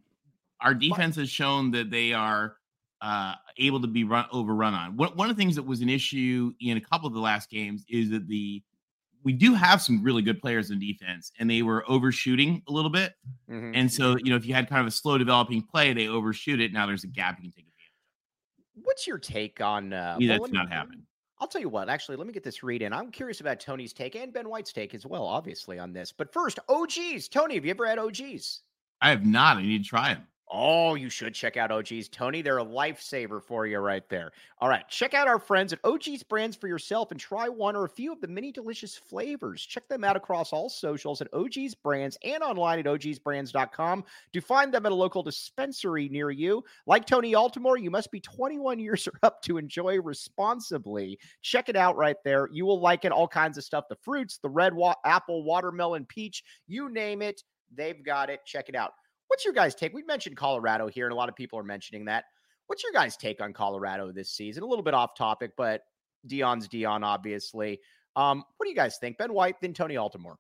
our defense has shown that they are uh, able to be run overrun on. One one of the things that was an issue in a couple of the last games is that the we do have some really good players in defense, and they were overshooting a little bit. Mm-hmm. And so, you know, if you had kind of a slow developing play, they overshoot it. Now there's a gap you can take advantage of. What's your take on uh, well, that's well, not happening? I'll tell you what, actually, let me get this read in. I'm curious about Tony's take and Ben White's take as well, obviously, on this. But first, O Gs. Tony, have you ever had O Gs? I have not. I need to try them. Oh, you should check out O Gs. Tony, they're a lifesaver for you right there. All right, check out our friends at O Gs Brands for yourself and try one or a few of the many delicious flavors. Check them out across all socials at O Gs Brands and online at O Gs brands dot com to find them at a local dispensary near you. Like Tony Altimore, you must be twenty-one years or up to enjoy responsibly. Check it out right there. You will like it. All kinds of stuff. The fruits, the red wa- apple, watermelon, peach, you name it, they've got it. Check it out. What's your guys' take? We mentioned Colorado here, and a lot of people are mentioning that. What's your guys' take on Colorado this season? A little bit off topic, but Deion's Deion, obviously. Um, what do you guys think? Ben White, then Tony Altimore.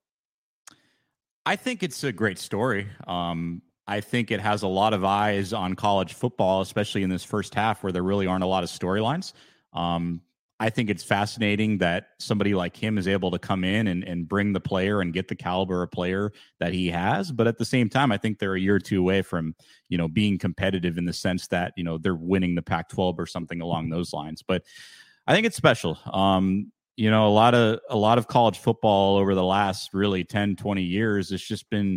I think it's a great story. Um, I think it has a lot of eyes on college football, especially in this first half where there really aren't a lot of storylines. Um, I think it's fascinating that somebody like him is able to come in and, and bring the player and get the caliber of player that he has. But at the same time, I think they're a year or two away from, you know, being competitive in the sense that, you know, they're winning the Pac twelve or something along those lines. But I think it's special. Um, you know, a lot of a lot of college football over the last really ten, twenty years has just been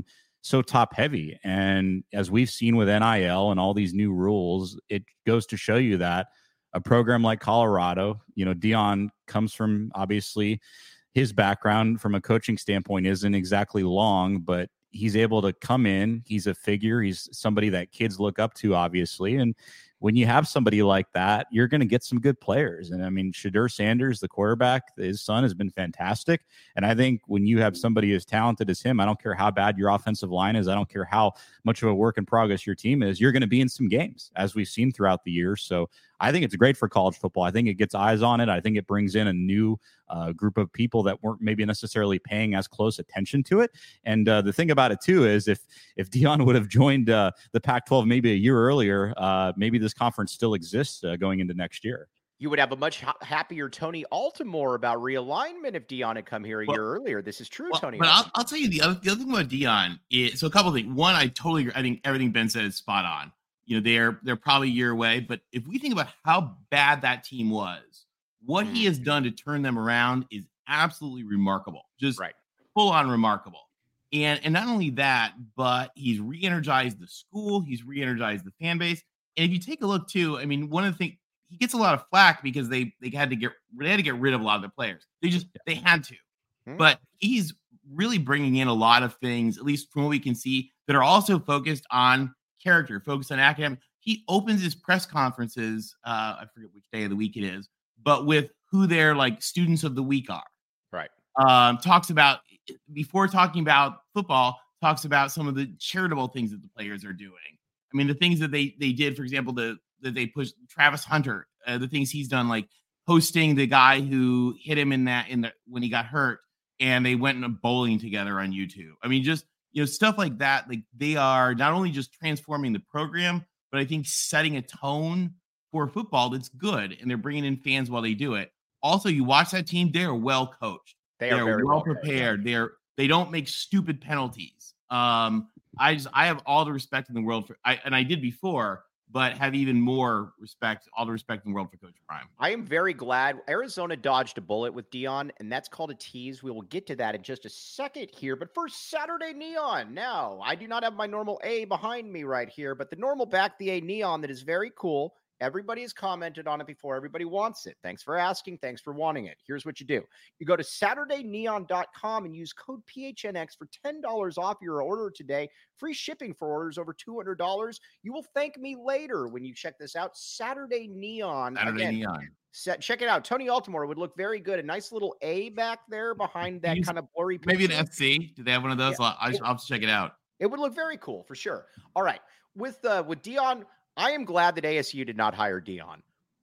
so top heavy. And as we've seen with N I L and all these new rules, it goes to show you that a program like Colorado, you know, Deion comes from, obviously his background from a coaching standpoint isn't exactly long, but he's able to come in. He's a figure. He's somebody that kids look up to, obviously. And when you have somebody like that, you're going to get some good players. And I mean, Shedeur Sanders, the quarterback, his son has been fantastic. And I think when you have somebody as talented as him, I don't care how bad your offensive line is. I don't care how much of a work in progress your team is. You're going to be in some games, as we've seen throughout the year. So I think it's great for college football. I think it gets eyes on it. I think it brings in a new uh, group of people that weren't maybe necessarily paying as close attention to it. And uh, the thing about it, too, is if if Deion would have joined uh, the Pac twelve maybe a year earlier, uh, maybe this conference still exists uh, going into next year. You would have a much ha- happier Tony Altimore about realignment if Deion had come here a well, year earlier. This is true, well, Tony. But I'll, I'll tell you the other, the other thing about Deion is, so a couple of things. One, I totally agree. I think everything Ben said is spot on. You know, they're they're probably a year away. But if we think about how bad that team was, what mm. he has done to turn them around is absolutely remarkable. Just right. full on remarkable. And and not only that, but he's re-energized the school. He's re-energized the fan base. And if you take a look too, I mean, one of the things, he gets a lot of flack because they they had to get they had to get rid of a lot of the players. They just they had to. Mm. But he's really bringing in a lot of things, at least from what we can see, that are also focused on character, focused on academic. He opens his press conferences, uh, I forget which day of the week it is, but with who their like students of the week are. Right. Um, talks about, before talking about football, talks about some of the charitable things that the players are doing. I mean, the things that they they did, for example, the that they pushed Travis Hunter, uh, the things he's done, like hosting the guy who hit him in that in the when he got hurt, and they went and bowling together on YouTube. I mean, just you know, stuff like that. Like they are not only just transforming the program, but I think setting a tone for football that's good, and they're bringing in fans while they do it. Also, you watch that team; they are well coached. They They're are very well well prepared. coached. They're they don't make stupid penalties. Um, I just I have all the respect in the world for, I, and I did before, but have even more respect, all the respect in the world for Coach Prime. I am very glad Arizona dodged a bullet with Deion, and that's called a tease. We will get to that in just a second here. But first, Saturday Neon. Now, I do not have my normal A behind me right here, but the normal back the A neon that is very cool. Everybody has commented on it before. Everybody wants it. Thanks for asking. Thanks for wanting it. Here's what you do. You go to Saturday Neon dot com and use code P H N X for ten dollars off your order today. Free shipping for orders over two hundred dollars. You will thank me later when you check this out. Saturday Neon. Saturday Again, Neon. Set, check it out. Tony Altimore would look very good. A nice little A back there behind that kind of blurry picture. Maybe an F C. Do they have one of those? Yeah. I'll, I'll have to check it out. It would look very cool for sure. All right. With uh, with Deion, I am glad that A S U did not hire Deion.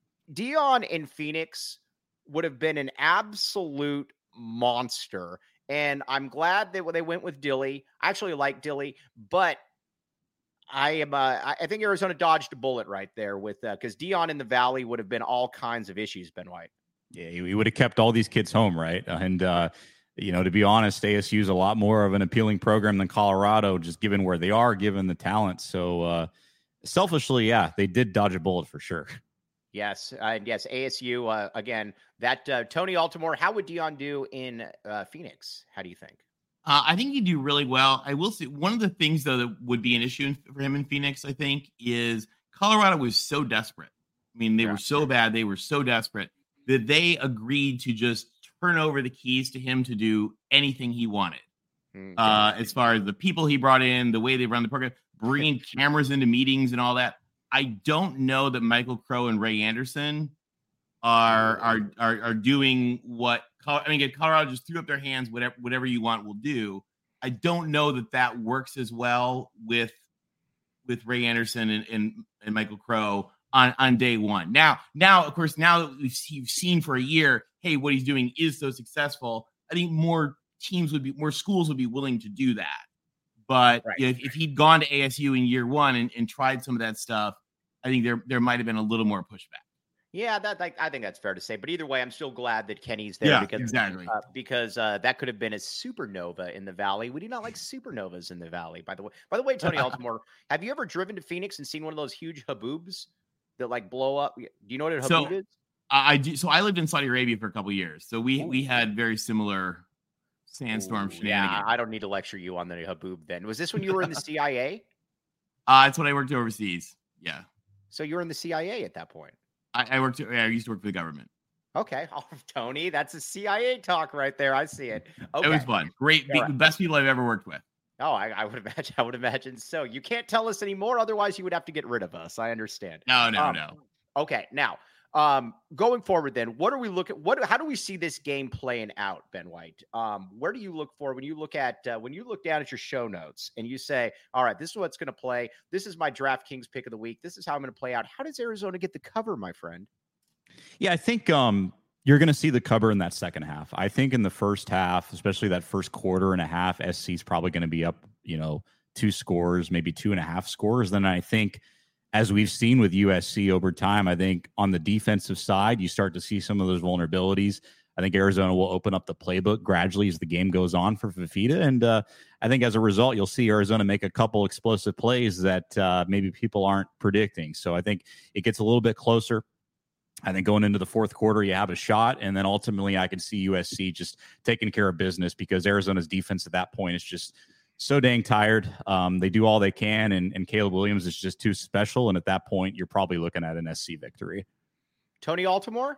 Deion in Phoenix would have been an absolute monster. And I'm glad that they went with Dilly. I actually like Dilly, but I am. Uh, I think Arizona dodged a bullet right there with because uh, Deion in the Valley would have been all kinds of issues. Ben White. Yeah, he would have kept all these kids home, right? And uh, you know, to be honest, A S U is a lot more of an appealing program than Colorado, just given where they are, given the talent. So. Uh, Selfishly, yeah, they did dodge a bullet for sure. Yes, uh, yes, A S U, uh, again, that uh, Tony Altimore, how would Deion do in uh, Phoenix? How do you think? Uh, I think he'd do really well. I will say one of the things, though, that would be an issue for him in Phoenix, I think, is Colorado was so desperate. I mean, they yeah. were so bad. They were so desperate that they agreed to just turn over the keys to him to do anything he wanted. Mm-hmm. Uh, as far as the people he brought in, the way they run the program, bringing cameras into meetings and all that. I don't know that Michael Crow and Ray Anderson are are are, are doing what I mean. Colorado just threw up their hands. Whatever whatever you want, we'll do. I don't know that that works as well with with Ray Anderson and and, and Michael Crow on, on day one. Now now of course now that we've you've seen for a year, hey, what he's doing is so successful. I think more teams would be more schools would be willing to do that. But right. if, if he'd gone to A S U in year one and, and tried some of that stuff, I think there there might have been a little more pushback. Yeah, that, that I think that's fair to say. But either way, I'm still glad that Kenny's there yeah, because exactly uh, because uh, that could have been a supernova in the Valley. We do not like supernovas in the Valley, by the way. By the way, Tony Altimore, have you ever driven to Phoenix and seen one of those huge haboobs that like blow up? Do you know what a haboob so, is? I do. So I lived in Saudi Arabia for a couple of years. So we Ooh. we had very similar sandstorm Ooh, shenanigans. Yeah, I don't need to lecture you on the Haboob then. Was this when you were in the C I A? Uh, it's when I worked overseas. Yeah. So you were in the C I A at that point. I, I worked. I used to work for the government. Okay. Oh, Tony, that's a C I A talk right there. I see it. Okay. It was fun. Great. The, Right. the best people I've ever worked with. Oh, I, I would imagine. I would imagine so. You can't tell us anymore, otherwise you would have to get rid of us. I understand. No, no, Um, no. Okay, now um, going forward, then what are we looking? What? How do we see this game playing out, Ben White? Um, where do you look for when you look at uh, when you look down at your show notes and you say, "All right, this is what's going to play. This is my DraftKings pick of the week. This is how I'm going to play out." How does Arizona get the cover, my friend? Yeah, I think um, you're going to see the cover in that second half. I think in the first half, especially that first quarter and a half, S C is probably going to be up, you know, two scores, maybe two and a half scores. Then I think, as we've seen with U S C over time, I think on the defensive side, you start to see some of those vulnerabilities. I think Arizona will open up the playbook gradually as the game goes on for Fifita. And uh, I think as a result, you'll see Arizona make a couple explosive plays that uh, maybe people aren't predicting. So I think it gets a little bit closer. I think going into the fourth quarter, you have a shot. And then ultimately, I can see U S C just taking care of business because Arizona's defense at that point is just so dang tired. Um, they do all they can, and, and Caleb Williams is just too special. And at that point, you're probably looking at an S C victory. Tony Altimore?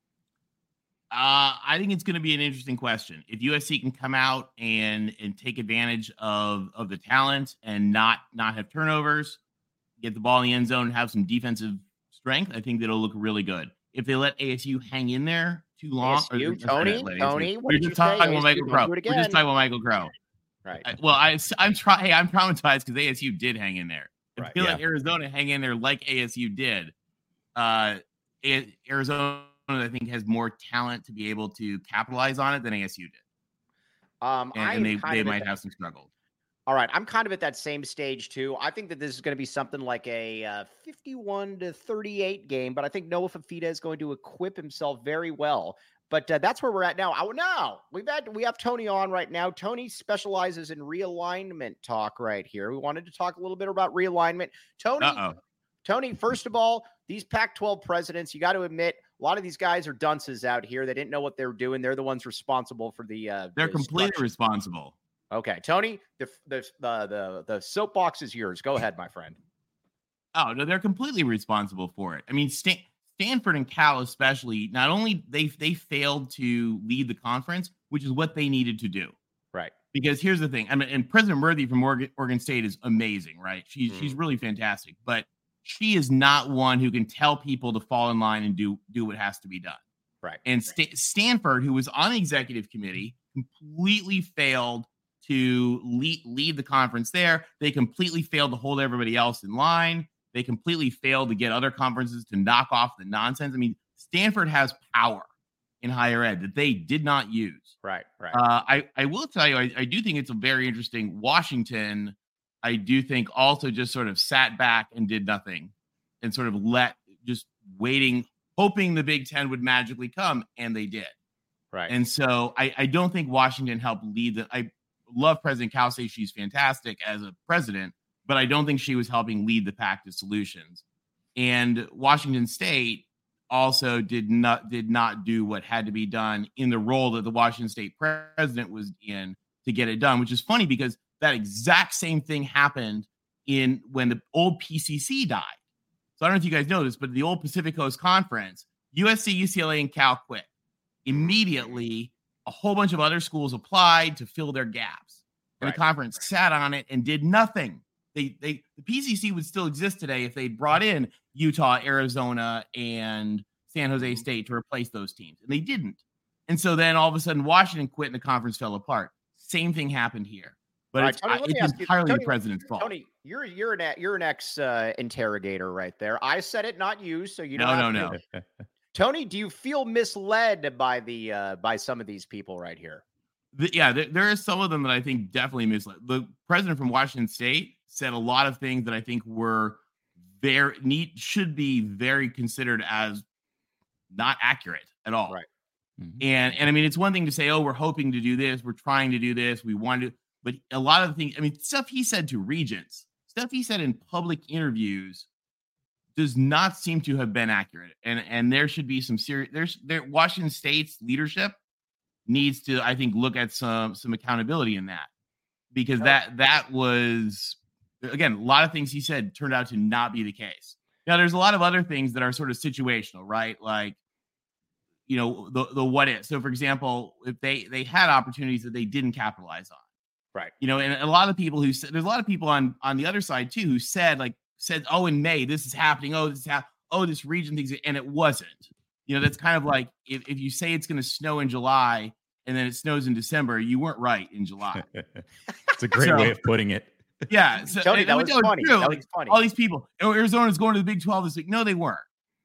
Uh, I think it's going to be an interesting question. If U S C can come out and and take advantage of of the talent and not not have turnovers, get the ball in the end zone, and have some defensive strength, I think that'll look really good. If they let A S U hang in there too long, A S U, or, Tony, let Tony, A S U. what We're did just you say? talking about A S U, Michael don't Crow. do it We're again. just talking about Michael Crow. Right. I, well, I, I'm trying. Hey, I'm traumatized because A S U did hang in there. If Right. you Yeah. let Arizona hang in there like A S U did, uh, A- Arizona, I think, has more talent to be able to capitalize on it than A S U did, Um, and, I and am they kind they of at might that- have some struggles. All right, I'm kind of at that same stage too. I think that this is going to be something like a uh, fifty-one to thirty-eight game, but I think Noah Fifita is going to equip himself very well. But uh, that's where we're at now. I, now we've had we have Tony on right now. Tony specializes in realignment talk right here. We wanted to talk a little bit about realignment. Tony, Uh oh. Tony, first of all, these Pac twelve presidents, you got to admit, a lot of these guys are dunces out here. They didn't know what they were doing. They're the ones responsible for the. Uh, They're the completely structure. responsible. Okay, Tony, the the the the, the soapbox is yours. Go ahead, my friend. Oh no, they're completely responsible for it. I mean, Stan- Stanford and Cal especially. Not only they they failed to lead the conference, which is what they needed to do. Right. Because here's the thing. I mean, and President Worthy from Oregon, Oregon State is amazing, right? She's Mm. she's really fantastic, but she is not one who can tell people to fall in line and do do what has to be done. Right. And St- Stanford, who was on the executive committee, completely failed to lead, lead the conference there. They completely failed to hold everybody else in line. They completely failed to get other conferences to knock off the nonsense. I mean, Stanford has power in higher ed that they did not use. Right. Right. Uh, I, I will tell you, I, I do think it's a very interesting. Washington, I do think also just sort of sat back and did nothing and sort of let just waiting, hoping the Big Ten would magically come, and they did. right. And so I, I don't think Washington helped lead the. I love President Kelsey. She's fantastic as a president, but I don't think she was helping lead the pack to solutions. And Washington State also did not did not do what had to be done in the role that the Washington State president was in to get it done, which is funny because that exact same thing happened in when the old P C C died. So I don't know if you guys know this, but the old Pacific Coast Conference, U S C, U C L A, and Cal quit. Immediately, a whole bunch of other schools applied to fill their gaps. And Right. the conference sat on it and did nothing. They they the P C C would still exist today if they brought in Utah, Arizona, and San Jose State to replace those teams. And they didn't. And so then all of a sudden Washington quit and the conference fell apart. Same thing happened here. But All right, it's, Tony, I- let me it's ask you- entirely Tony, the president's fault. Tony, you're you're an you're an ex uh, interrogator right there. I said it, not you. So you No, don't no, have no. to- Tony, do you feel misled by the uh, by some of these people right here? The- yeah, there, there are some of them that I think definitely misled. The president from Washington State said a lot of things that I think were very neat, should be very considered as not accurate at all. Right. Mhm. And and I mean, it's one thing to say, oh, we're hoping to do this, we're trying to do this, we want to, but a lot of the things, I mean, stuff he said to regents, stuff he said in public interviews does not seem to have been accurate. And and there should be some serious, there's there Washington State's leadership needs to, I think, look at some some accountability in that, because that that was, again, a lot of things he said turned out to not be the case. Now, there's a lot of other things that are sort of situational, right? Like, you know, the the what if. So, for example, if they they had opportunities that they didn't capitalize on, right? You know, and a lot of people who said, there's a lot of people on on the other side too who said like said, oh, in May this is happening. Oh, this is happening. Oh, this region things, and it wasn't. You know, that's kind of like if, if you say it's going to snow in July and then it snows in December, you weren't right in July. It's a great so, way of putting it. Yeah. So, Tony, that was funny. True. That was funny. All these people, oh, Arizona's going to the Big twelve this week. No, they weren't.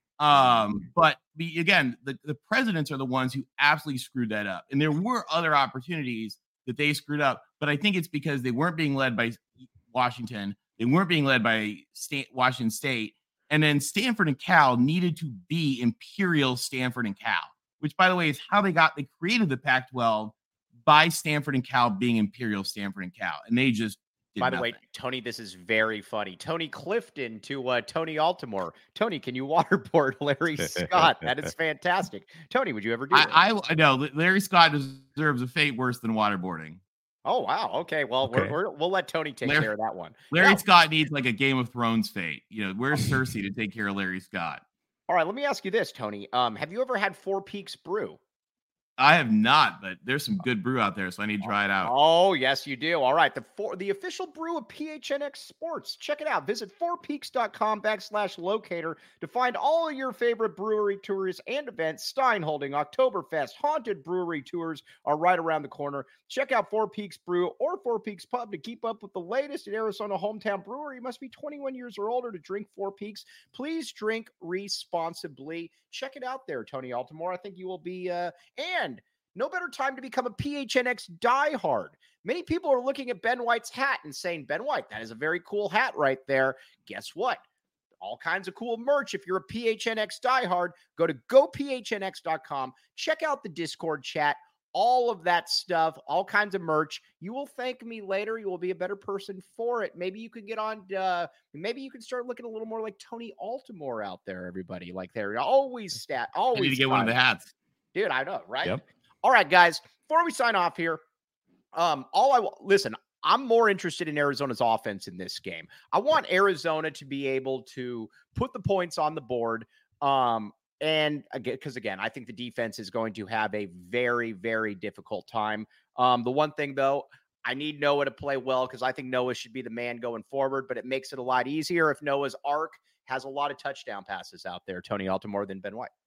Um, but the, again, the, the presidents are the ones who absolutely screwed that up. And there were other opportunities that they screwed up. But I think it's because they weren't being led by Washington. They weren't being led by state, Washington State. And then Stanford and Cal needed to be Imperial Stanford and Cal, which, by the way, is how they got, they created the Pac twelve by Stanford and Cal being Imperial Stanford and Cal. And they just did By the nothing. way, Tony, this is very funny. Tony Clifton to uh, Tony Altimore. Tony, can you waterboard Larry Scott? That is fantastic. Tony, would you ever do that? I, I know Larry Scott deserves a fate worse than waterboarding. Oh, wow. Okay. Well, Okay. We're, we're, we'll let Tony take Larry, care of that one. Larry Now, Scott needs like a Game of Thrones fate. You know, where's Cersei to take care of Larry Scott? all right. Let me ask you this, Tony. Um, have you ever had Four Peaks Brew? I have not, but there's some good brew out there, so I need to try it out. Oh, yes, you do. All right. The four, the official brew of P H N X Sports. Check it out. Visit fourpeaks.com backslash locator to find all of your favorite brewery tours and events. Stein Holding, Oktoberfest, Haunted Brewery tours are right around the corner. Check out Four Peaks Brew or Four Peaks Pub to keep up with the latest in Arizona hometown brewery. You must be twenty-one years or older to drink Four Peaks. Please drink responsibly. Check it out there, Tony Altimore. I think you will be, uh, and no better time to become a P H N X diehard. Many people are looking at Ben White's hat and saying, Ben White, that is a very cool hat right there. Guess what? All kinds of cool merch. If you're a P H N X diehard, go to go P H N X dot com. Check out the Discord chat. All of that stuff, all kinds of merch. You will thank me later. You will be a better person for it. Maybe you could get on, uh, maybe you could start looking a little more like Tony Altimore out there, everybody. Like they're always stat, always. I need to get one of the hats. Dude, I know, right? Yep. All right, guys, before we sign off here, um, all I listen, I'm more interested in Arizona's offense in this game. I want Arizona to be able to put the points on the board. Um, and again, because again, I think the defense is going to have a very, very difficult time. Um, the one thing though, I need Noah to play well because I think Noah should be the man going forward, but it makes it a lot easier if Noah's arc has a lot of touchdown passes out there, Tony Altimore, than Ben White.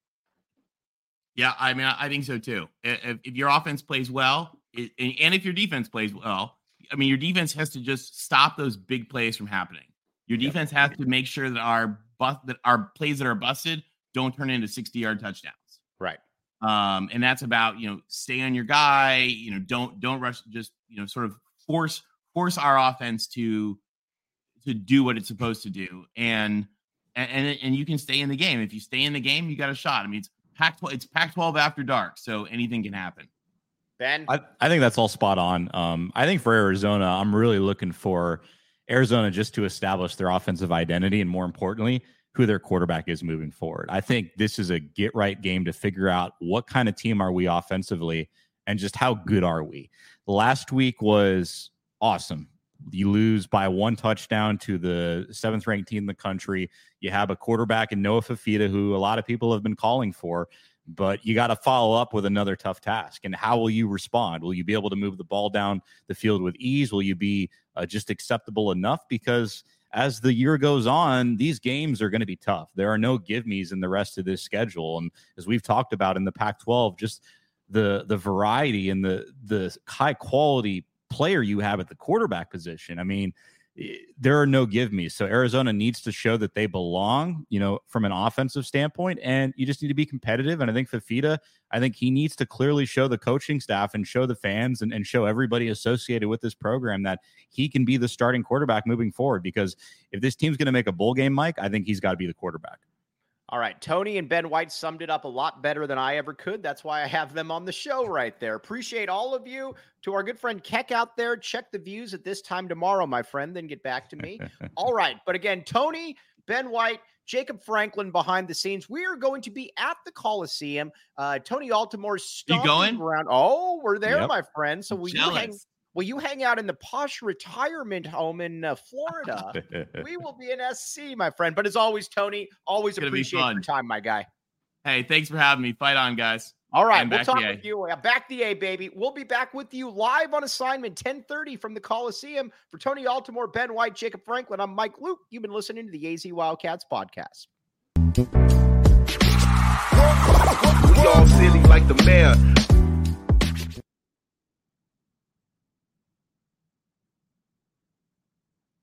Yeah, I mean, I think so too. If, if your offense plays well, it, and if your defense plays well, I mean, your defense has to just stop those big plays from happening. Your defense yep. has to make sure that our bust, that our plays that are busted don't turn into sixty-yard touchdowns. Right. Um, and that's about, you know, stay on your guy. You know, don't don't rush. Just, you know, sort of force force our offense to to do what it's supposed to do, and and and you can stay in the game. If you stay in the game, you got a shot. I mean, it's Pac twelve, it's Pac twelve after dark, so anything can happen. Ben? I, I think that's all spot on. Um, I think for Arizona, I'm really looking for Arizona just to establish their offensive identity and, more importantly, who their quarterback is moving forward. I think this is a get-right game to figure out what kind of team are we offensively and just how good are we. Last week was awesome. You lose by one touchdown to the seventh-ranked team in the country. You have a quarterback in Noah Fifita, who a lot of people have been calling for, but you got to follow up with another tough task. And how will you respond? Will you be able to move the ball down the field with ease? Will you be uh, just acceptable enough? Because as the year goes on, these games are going to be tough. There are no give-me's in the rest of this schedule. And as we've talked about in the Pac twelve, just the the variety and the the high-quality player you have at the quarterback position. I mean, there are no give me. So Arizona needs to show that they belong, you know, from an offensive standpoint, and you just need to be competitive. And I think Fifita, I think he needs to clearly show the coaching staff and show the fans and, and show everybody associated with this program that he can be the starting quarterback moving forward. Because if this team's going to make a bowl game, Mike, I think he's got to be the quarterback. All right. Tony and Ben White summed it up a lot better than I ever could. That's why I have them on the show right there. Appreciate all of you. To our good friend Keck out there, check the views at this time tomorrow, my friend, then get back to me. All right. But again, Tony, Ben White, Jacob Franklin behind the scenes. We are going to be at the Coliseum. Uh, Tony Altomore's stomping going? around. Oh, we're there, Yep. my friend. So will you hang? Will you hang out in the posh retirement home in uh, Florida? We will be in S C, my friend. But as always, Tony, always appreciate your time, my guy. Hey, thanks for having me. Fight on, guys. All right, we'll talk with you. Back the A, baby. We'll be back with you live on assignment, ten thirty from the Coliseum. For Tony Altomore, Ben White, Jacob Franklin, I'm Mike Luke. You've been listening to the A Z Wildcats podcast. We all silly like the mayor.